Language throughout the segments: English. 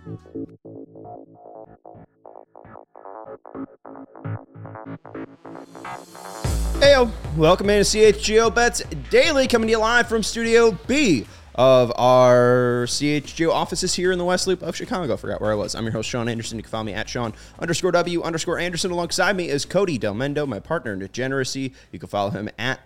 Heyo, welcome into CHGO Bets Daily, coming to you live from Studio B of our CHGO offices here in the West Loop of Chicago. Forgot where I was. I'm your host, Sean Anderson. You can follow me at Sean_W_Anderson. Alongside me is Cody Del Mendo, my partner in degeneracy. You can follow him at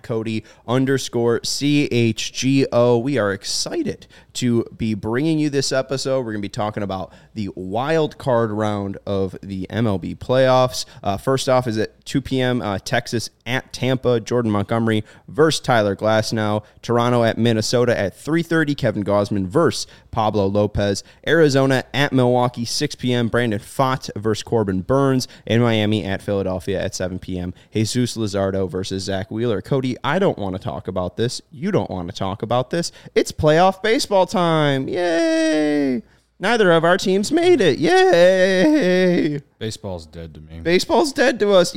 Cody_CHGO. We are excited to be bringing you this episode. We're going to be talking about the wild card round of the MLB playoffs. First off is at 2 p.m. Texas at Tampa. Jordan Montgomery versus Tyler Glasnow. Toronto at Minnesota at 3:30. Kevin Gausman versus Pablo Lopez. Arizona at Milwaukee, 6 p.m. Brandon Pfaadt versus Corbin Burns. And Miami at Philadelphia at 7 p.m. Jesus Luzardo versus Zach Wheeler. Cody, I don't want to talk about this. You don't want to talk about this. It's playoff baseball time. Yay! Neither of our teams made it. Yay! Baseball's dead to me. Baseball's dead to us.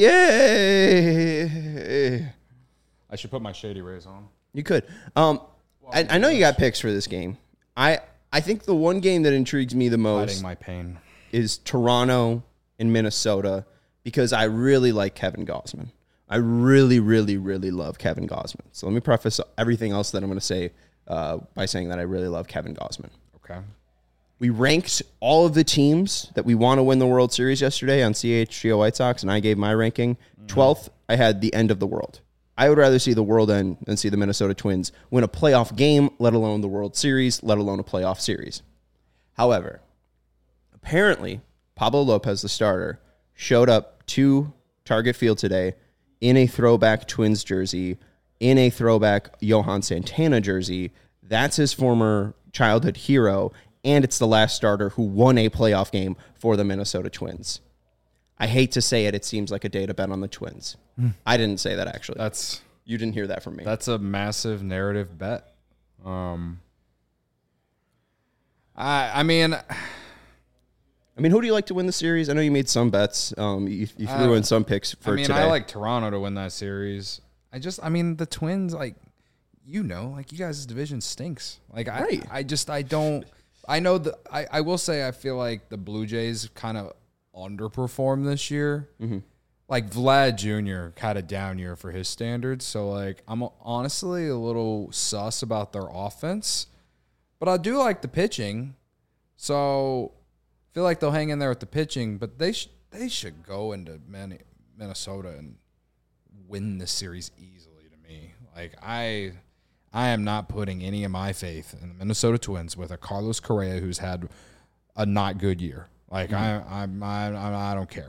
Yay! I should put my Shady Rays on. You could. I know you got picks for this game. I think the one game that intrigues me the most Hiding my pain is Toronto and Minnesota, because I really like Kevin Gausman. I really, really, really love Kevin Gausman. So let me preface everything else that I'm going to say by saying that I really love Kevin Gausman. Okay. We ranked all of the teams that we want to win the World Series yesterday on CHGO White Sox, and I gave my ranking. 12th, I had the end of the world. I would rather see the world end than see the Minnesota Twins win a playoff game, let alone the World Series, let alone a playoff series. However, apparently, Pablo Lopez, the starter, showed up to Target Field today in a throwback Twins jersey, in a throwback Johan Santana jersey. That's his former childhood hero, and it's the last starter who won a playoff game for the Minnesota Twins. I hate to say it, it seems like a day to bet on the Twins. I didn't say that, actually. You didn't hear that from me. That's a massive narrative bet. I mean, who do you like to win the series? I know you made some bets. You threw in some picks for today. I like Toronto to win that series. The Twins, you guys' division stinks. Right. I will say I feel like the Blue Jays kind of underperformed this year. Mm-hmm. Vlad Jr. had a down year for his standards, so I'm honestly a little sus about their offense, but I do like the pitching, so I feel like they'll hang in there with the pitching, but they should go into Minnesota and win the series easily to me. I am not putting any of my faith in the Minnesota Twins with a Carlos Correa who's had a not good year. I don't care.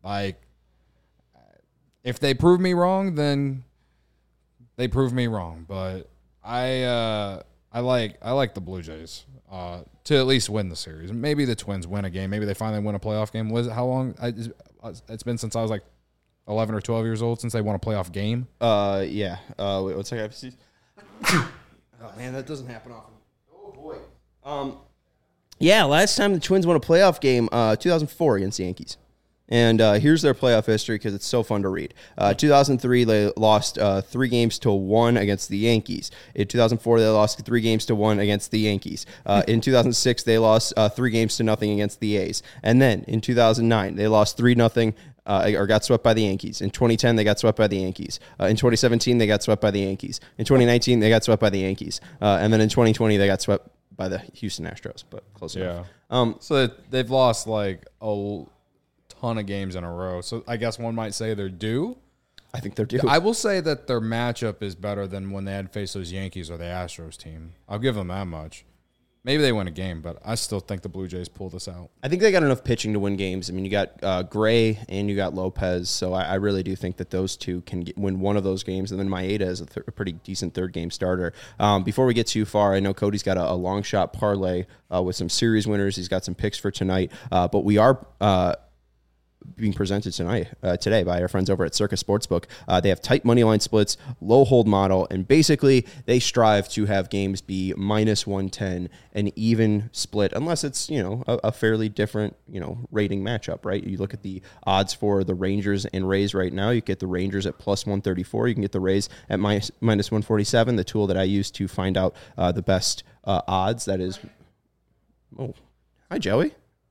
If they prove me wrong, then they prove me wrong. But I like the Blue Jays to at least win the series. Maybe the Twins win a game. Maybe they finally win a playoff game. How long? It's been since I was 11 or 12 years old since they won a playoff game. Yeah. Wait, one second. Oh man, that doesn't happen often. Oh boy. Yeah, last time the Twins won a playoff game, 2004 against the Yankees. And here's their playoff history because it's so fun to read. 2003, they lost 3-1 against the Yankees. In 2004, they lost 3-1 against the Yankees. In 2006, they lost 3-0 against the A's. And then in 2009, they lost 3-0 or got swept by the Yankees. In 2010, they got swept by the Yankees. In 2017, they got swept by the Yankees. In 2019, they got swept by the Yankees. And then in 2020, they got swept by the Houston Astros, but close enough. So they've lost a ton of games in a row. So I guess one might say they're due. I think they're due. I will say that their matchup is better than when they had faced those Yankees or the Astros team. I'll give them that much. Maybe they win a game, but I still think the Blue Jays pull this out. I think they got enough pitching to win games. You got Gray and you got Lopez, so I really do think that those two can win one of those games, and then Maeda is a pretty decent third-game starter. Before we get too far, I know Cody's got a long shot parlay with some series winners. He's got some picks for tonight, but we are being presented today by our friends over at Circus Sportsbook. They have tight money line splits, low hold model, and basically they strive to have games be minus 110, an even split, unless it's, a fairly different, rating matchup, right? You look at the odds for the Rangers and Rays right now. You get the Rangers at plus 134. You can get the Rays at minus 147, the tool that I use to find out the best odds. That is, oh, hi, Joey.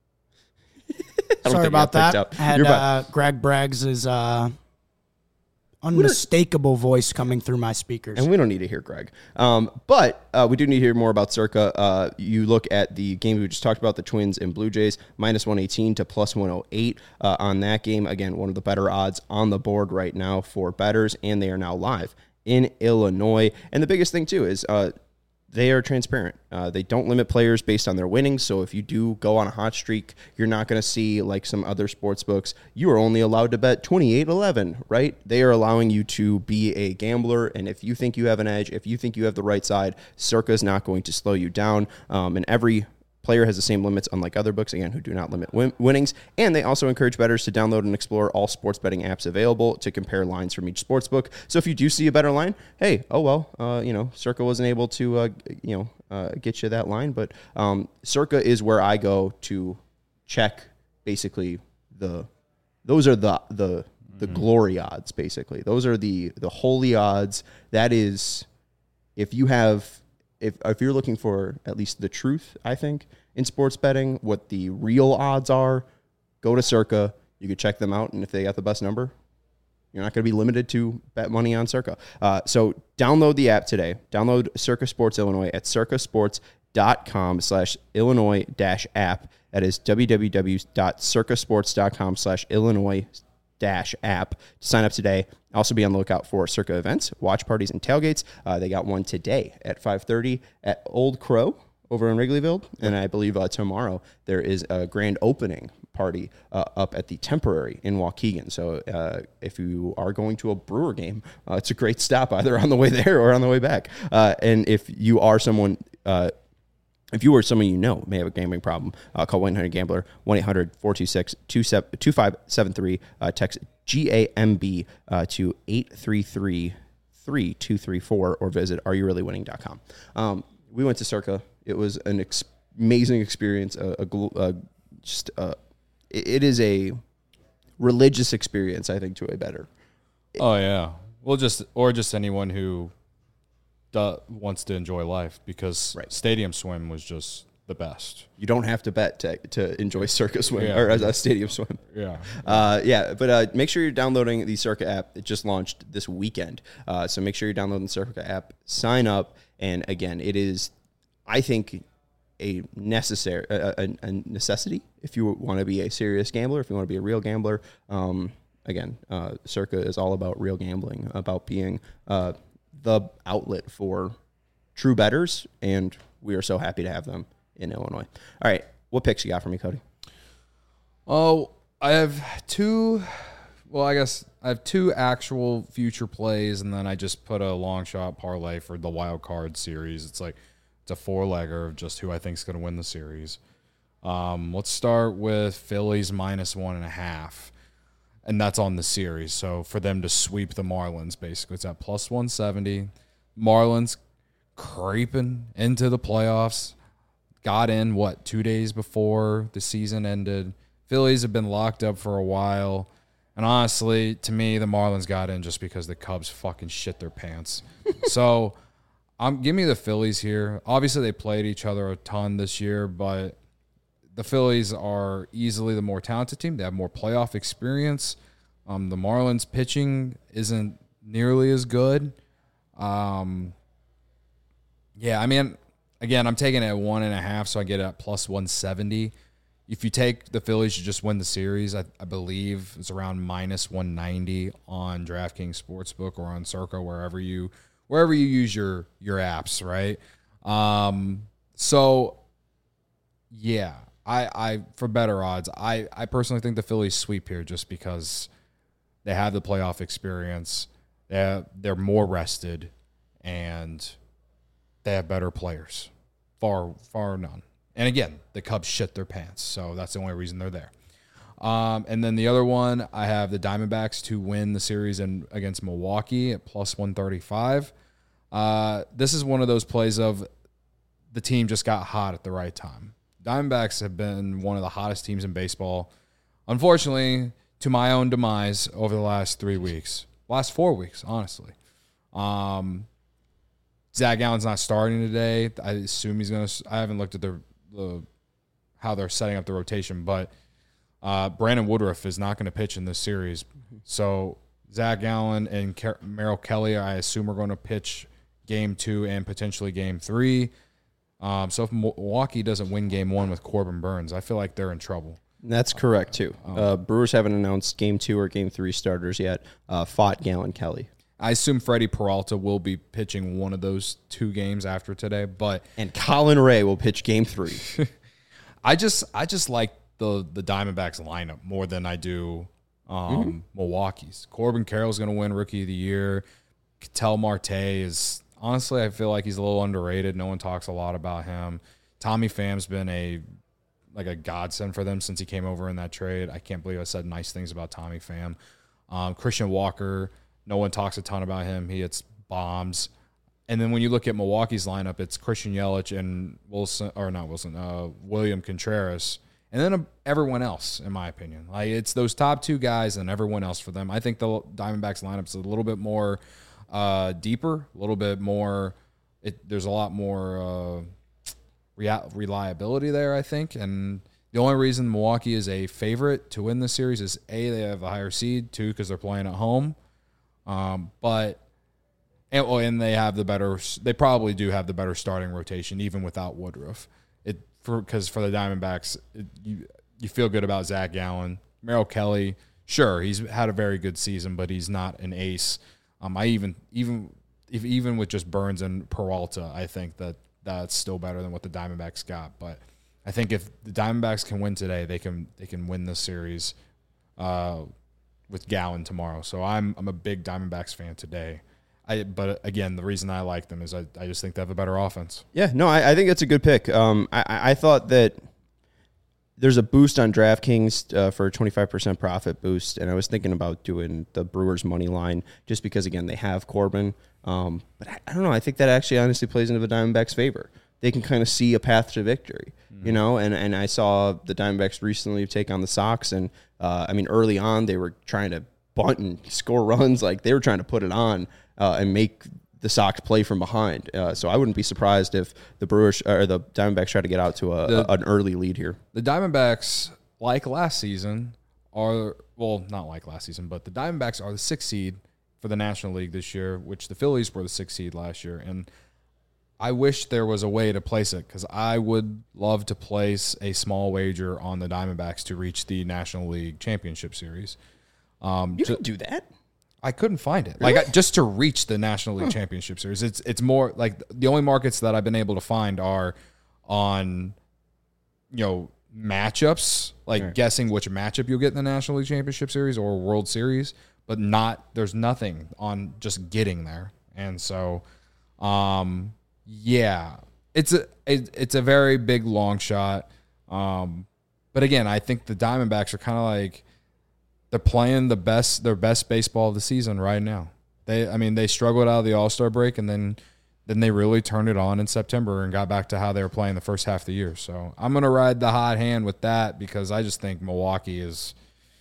don't Sorry think about I got that. picked I up. had You're fine. Greg Braggs' unmistakable voice coming through my speakers. And we don't need to hear Greg. But we do need to hear more about Circa. You look at the game we just talked about, the Twins and Blue Jays, minus 118 to plus 108 on that game. Again, one of the better odds on the board right now for bettors, and they are now live in Illinois. And the biggest thing, too, is they are transparent. They don't limit players based on their winnings. So if you do go on a hot streak, you're not going to see like some other sports books. You are only allowed to bet 28-11, right? They are allowing you to be a gambler. And if you think you have an edge, if you think you have the right side, Circa is not going to slow you down. And every player has the same limits, unlike other books, again, who do not limit winnings. And they also encourage bettors to download and explore all sports betting apps available to compare lines from each sports book. So if you do see a better line, hey, Circa wasn't able to, get you that line. But Circa is where I go to check basically those are the glory odds, basically. Those are the holy odds. That is, if you're looking for at least the truth, I think, in sports betting, what the real odds are, go to Circa. You could check them out, and if they got the best number, you're not going to be limited to bet money on Circa. So download the app today. Download Circa Sports Illinois at circasports.com/Illinois-app. That is www.circasports.com/Illinois-app to sign up today. Also be on the lookout for Circa events, watch parties, and tailgates. They got one today at 5:30 at Old Crow over in Wrigleyville. And I believe tomorrow there is a grand opening party up at the Temporary in Waukegan. So if you are going to a Brewer game, it's a great stop either on the way there or on the way back. And if you are someone... If you or someone you know may have a gambling problem, call 1-800-GAMBLER, 1-800-426-2573. Text GAMB to 833-3234 or visit areyourreallywinning.com. We went to Circa. It was an amazing experience. It is a religious experience, I think, to a bettor. Oh, yeah. Well, just anyone who wants to enjoy life, because Stadium Swim was just the best. You don't have to bet to enjoy Circa Swim or a Stadium Swim. Yeah. But make sure you're downloading the Circa app. It just launched this weekend. So make sure you're downloading the Circa app, sign up. And again, it is, I think, a necessity if you want to be a serious gambler, if you want to be a real gambler. Circa is all about real gambling, about being the outlet for true bettors, and we are so happy to have them in Illinois. All right, what picks you got for me, Cody? Oh, I have two actual future plays, and then I just put a long shot parlay for the wild card series. It's a four-legger of just who I think is going to win the series. Let's start with Phillies minus 1.5. And that's on the series. So for them to sweep the Marlins, basically, it's at plus 170. Marlins creeping into the playoffs. Got in, 2 days before the season ended. Phillies have been locked up for a while. And honestly, to me, the Marlins got in just because the Cubs fucking shit their pants. So give me the Phillies here. Obviously, they played each other a ton this year, but the Phillies are easily the more talented team. They have more playoff experience. The Marlins pitching isn't nearly as good. Again, I'm taking it at 1.5, so I get it at plus 170. If you take the Phillies to just win the series, I believe it's around minus 190 on DraftKings Sportsbook or on Circa, wherever you use your apps, right? I for better odds, I personally think the Phillies sweep here just because they have the playoff experience. They're more rested, and they have better players. Far none. And again, the Cubs shit their pants, so that's the only reason they're there. And then the other one, I have the Diamondbacks to win the series against Milwaukee at plus 135. This is one of those plays of the team just got hot at the right time. Diamondbacks have been one of the hottest teams in baseball. Unfortunately, to my own demise over the last 4 weeks, honestly. Zach Allen's not starting today. I assume he's going to – I haven't looked at how they're setting up the rotation, but Brandon Woodruff is not going to pitch in this series. So Zach Gallen and Merrill Kelly, I assume, are going to pitch Game 2 and potentially Game 3. So if Milwaukee doesn't win Game 1 with Corbin Burns, I feel like they're in trouble. That's correct, too. Brewers haven't announced Game 2 or Game 3 starters yet. Fought Gallen Kelly. I assume Freddie Peralta will be pitching one of those 2 games after today, and Colin Ray will pitch Game 3. I just like the Diamondbacks lineup more than I do Milwaukee's. Corbin Carroll's going to win Rookie of the Year. Ketel Marte is honestly, I feel like he's a little underrated. No one talks a lot about him. Tommy Pham's been a godsend for them since he came over in that trade. I can't believe I said nice things about Tommy Pham. Christian Walker, no one talks a ton about him. He hits bombs. And then when you look at Milwaukee's lineup, it's Christian Yelich and William Contreras, and then everyone else, in my opinion. Like, it's those top 2 guys and everyone else for them. I think the Diamondbacks lineup's a little bit more deeper, a little bit more. There's a lot more reliability there, I think. And the only reason Milwaukee is a favorite to win this series is A, they have a higher seed, 2, because they're playing at home. And they have they probably do have the better starting rotation, even without Woodruff. Because for the Diamondbacks, you feel good about Zach Gallen. Merrill Kelly, sure, he's had a very good season, but he's not an ace. Even with just Burns and Peralta, I think that's still better than what the Diamondbacks got. But I think if the Diamondbacks can win today, they can win this series with Gallen tomorrow. So I'm a big Diamondbacks fan today. But again, the reason I like them is I just think they have a better offense. Yeah, no, I think that's a good pick. I thought that there's a boost on DraftKings for a 25% profit boost, and I was thinking about doing the Brewers money line just because, again, they have Corbin. But I don't know. I think that actually honestly plays into the Diamondbacks' favor. They can kind of see a path to victory, you know, and I saw the Diamondbacks recently take on the Sox, and early on they were trying to bunt and score runs. Like, they were trying to put it on and make the Sox play from behind. So I wouldn't be surprised if the Brewers or the Diamondbacks try to get out to an early lead here. The Diamondbacks, like last season, not like last season, but the Diamondbacks are the 6th seed for the National League this year, which the Phillies were the 6th seed last year. And I wish there was a way to place it, because I would love to place a small wager on the Diamondbacks to reach the National League Championship Series. You can do that. I couldn't find it. Really? Like, just to reach the National League Championship Series. It's more like the only markets that I've been able to find are on, matchups, like guessing which matchup you'll get in the National League Championship Series or World Series, but there's nothing on just getting there. And so, it's a very big long shot. But again, I think the Diamondbacks are kind of like, they're playing their best baseball of the season right now. They struggled out of the All-Star break, and then they really turned it on in September and got back to how they were playing the first half of the year. So I'm going to ride the hot hand with that, because I just think Milwaukee is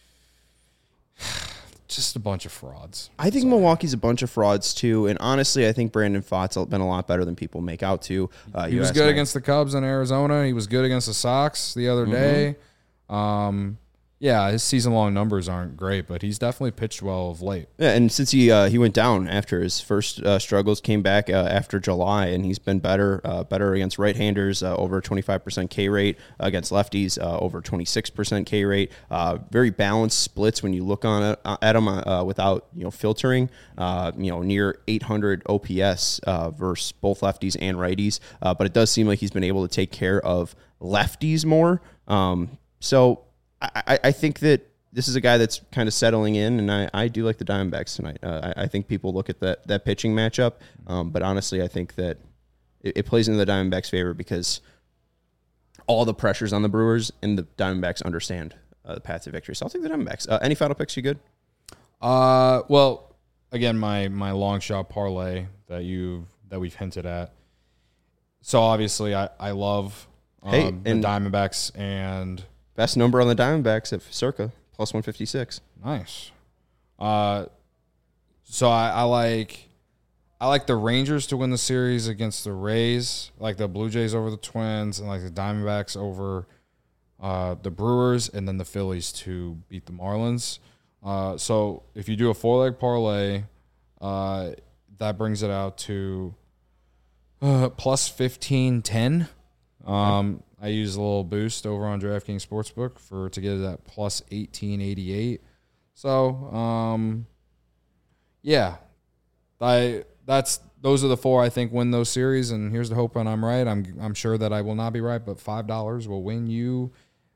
just a bunch of frauds. I think Milwaukee's a bunch of frauds too, and honestly, I think Brandon Pfaadt's been a lot better than people make out to. He was good against the Cubs in Arizona. He was good against the Sox the other day. Yeah, his season-long numbers aren't great, but he's definitely pitched well of late. Yeah, and since he went down after his first struggles, came back after July, and he's been better against right-handers, over 25% K rate, against lefties, over 26% K rate. Very balanced splits when you look at him without filtering. Near 800 OPS versus both lefties and righties. But it does seem like he's been able to take care of lefties more. So I think that this is a guy that's kind of settling in, and I do like the Diamondbacks tonight. I think people look at that pitching matchup, but honestly, I think that it plays into the Diamondbacks' favor because all the pressure's on the Brewers, and the Diamondbacks understand the path to victory. So I'll take the Diamondbacks. Any final picks? You good? Well, again, my long shot parlay that we've hinted at. So obviously, I love the Diamondbacks and. Best number on the Diamondbacks at circa plus 156. Nice. So I like the Rangers to win the series against the Rays. I like the Blue Jays over the Twins, and like the Diamondbacks over the Brewers, and then the Phillies to beat the Marlins. So if you do a 4-leg parlay, that brings it out to plus 1510. I use a little boost over on DraftKings Sportsbook to get it at plus 1888. So yeah, those are the four I think win those series, and here's the hope when I'm right. I'm sure that I will not be right, but $5 will win you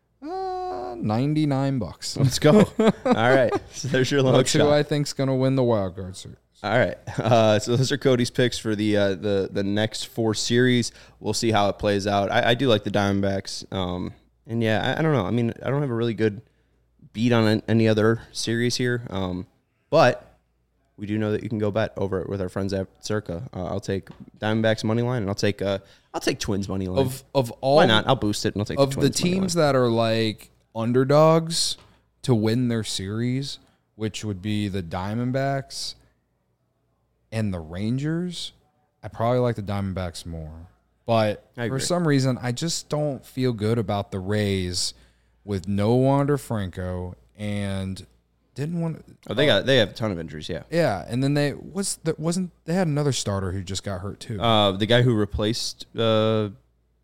$99. Let's go. All right. So there's your long That's shot. who I think's going to win the wild card series. All right. So those are Cody's picks for the next 4 series. We'll see how it plays out. I do like the Diamondbacks. And yeah, I don't know. I mean, I don't have a really good beat on any other series here. But we do know that you can go bet over it with our friends at Circa. I'll take Diamondbacks money line, and I'll take Twins money line. Of all, why not? I'll boost it and I'll take of the Twins the teams that are like underdogs to win their series, which would be the Diamondbacks and the Rangers. I probably like the Diamondbacks more, but for some reason, I just don't feel good about the Rays with no Wander Franco and didn't want. Oh, they have a ton of injuries. Yeah. Yeah, and then they had another starter who just got hurt too. The guy who replaced Franco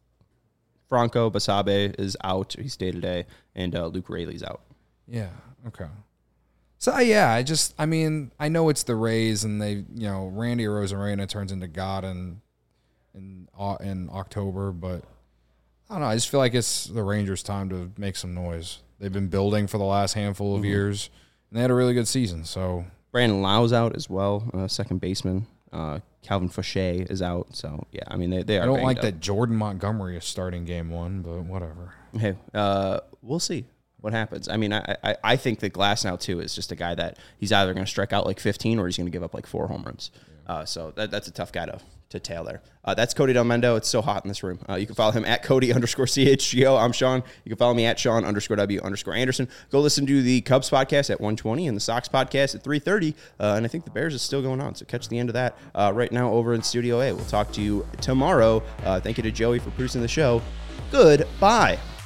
Basabe is out. He stayed today, and Luke Rayleigh's out. Yeah. Okay. So yeah, I mean, I know it's the Rays, and Randy Arozarena turns into God in October, but I don't know. I just feel like it's the Rangers' time to make some noise. They've been building for the last handful of years, and they had a really good season. So Brandon Lau's out as well, second baseman. Calvin Fauché is out. So yeah, I mean they are. I don't like up. that Jordan Montgomery is starting game 1, but whatever. Hey, we'll see what happens. I mean, I think that Glasnow too is just a guy that he's either going to strike out like 15 or he's going to give up like 4 home runs. Yeah. So that's a tough guy to tail there. That's Cody Delmendo. It's so hot in this room. You can follow him at Cody_CHGO. I'm Sean. You can follow me at Sean_W_Anderson. Go listen to the Cubs podcast at 1:20 and the Sox podcast at 3:30. And I think the Bears is still going on. So catch the end of that right now over in Studio A. We'll talk to you tomorrow. Thank you to Joey for producing the show. Goodbye.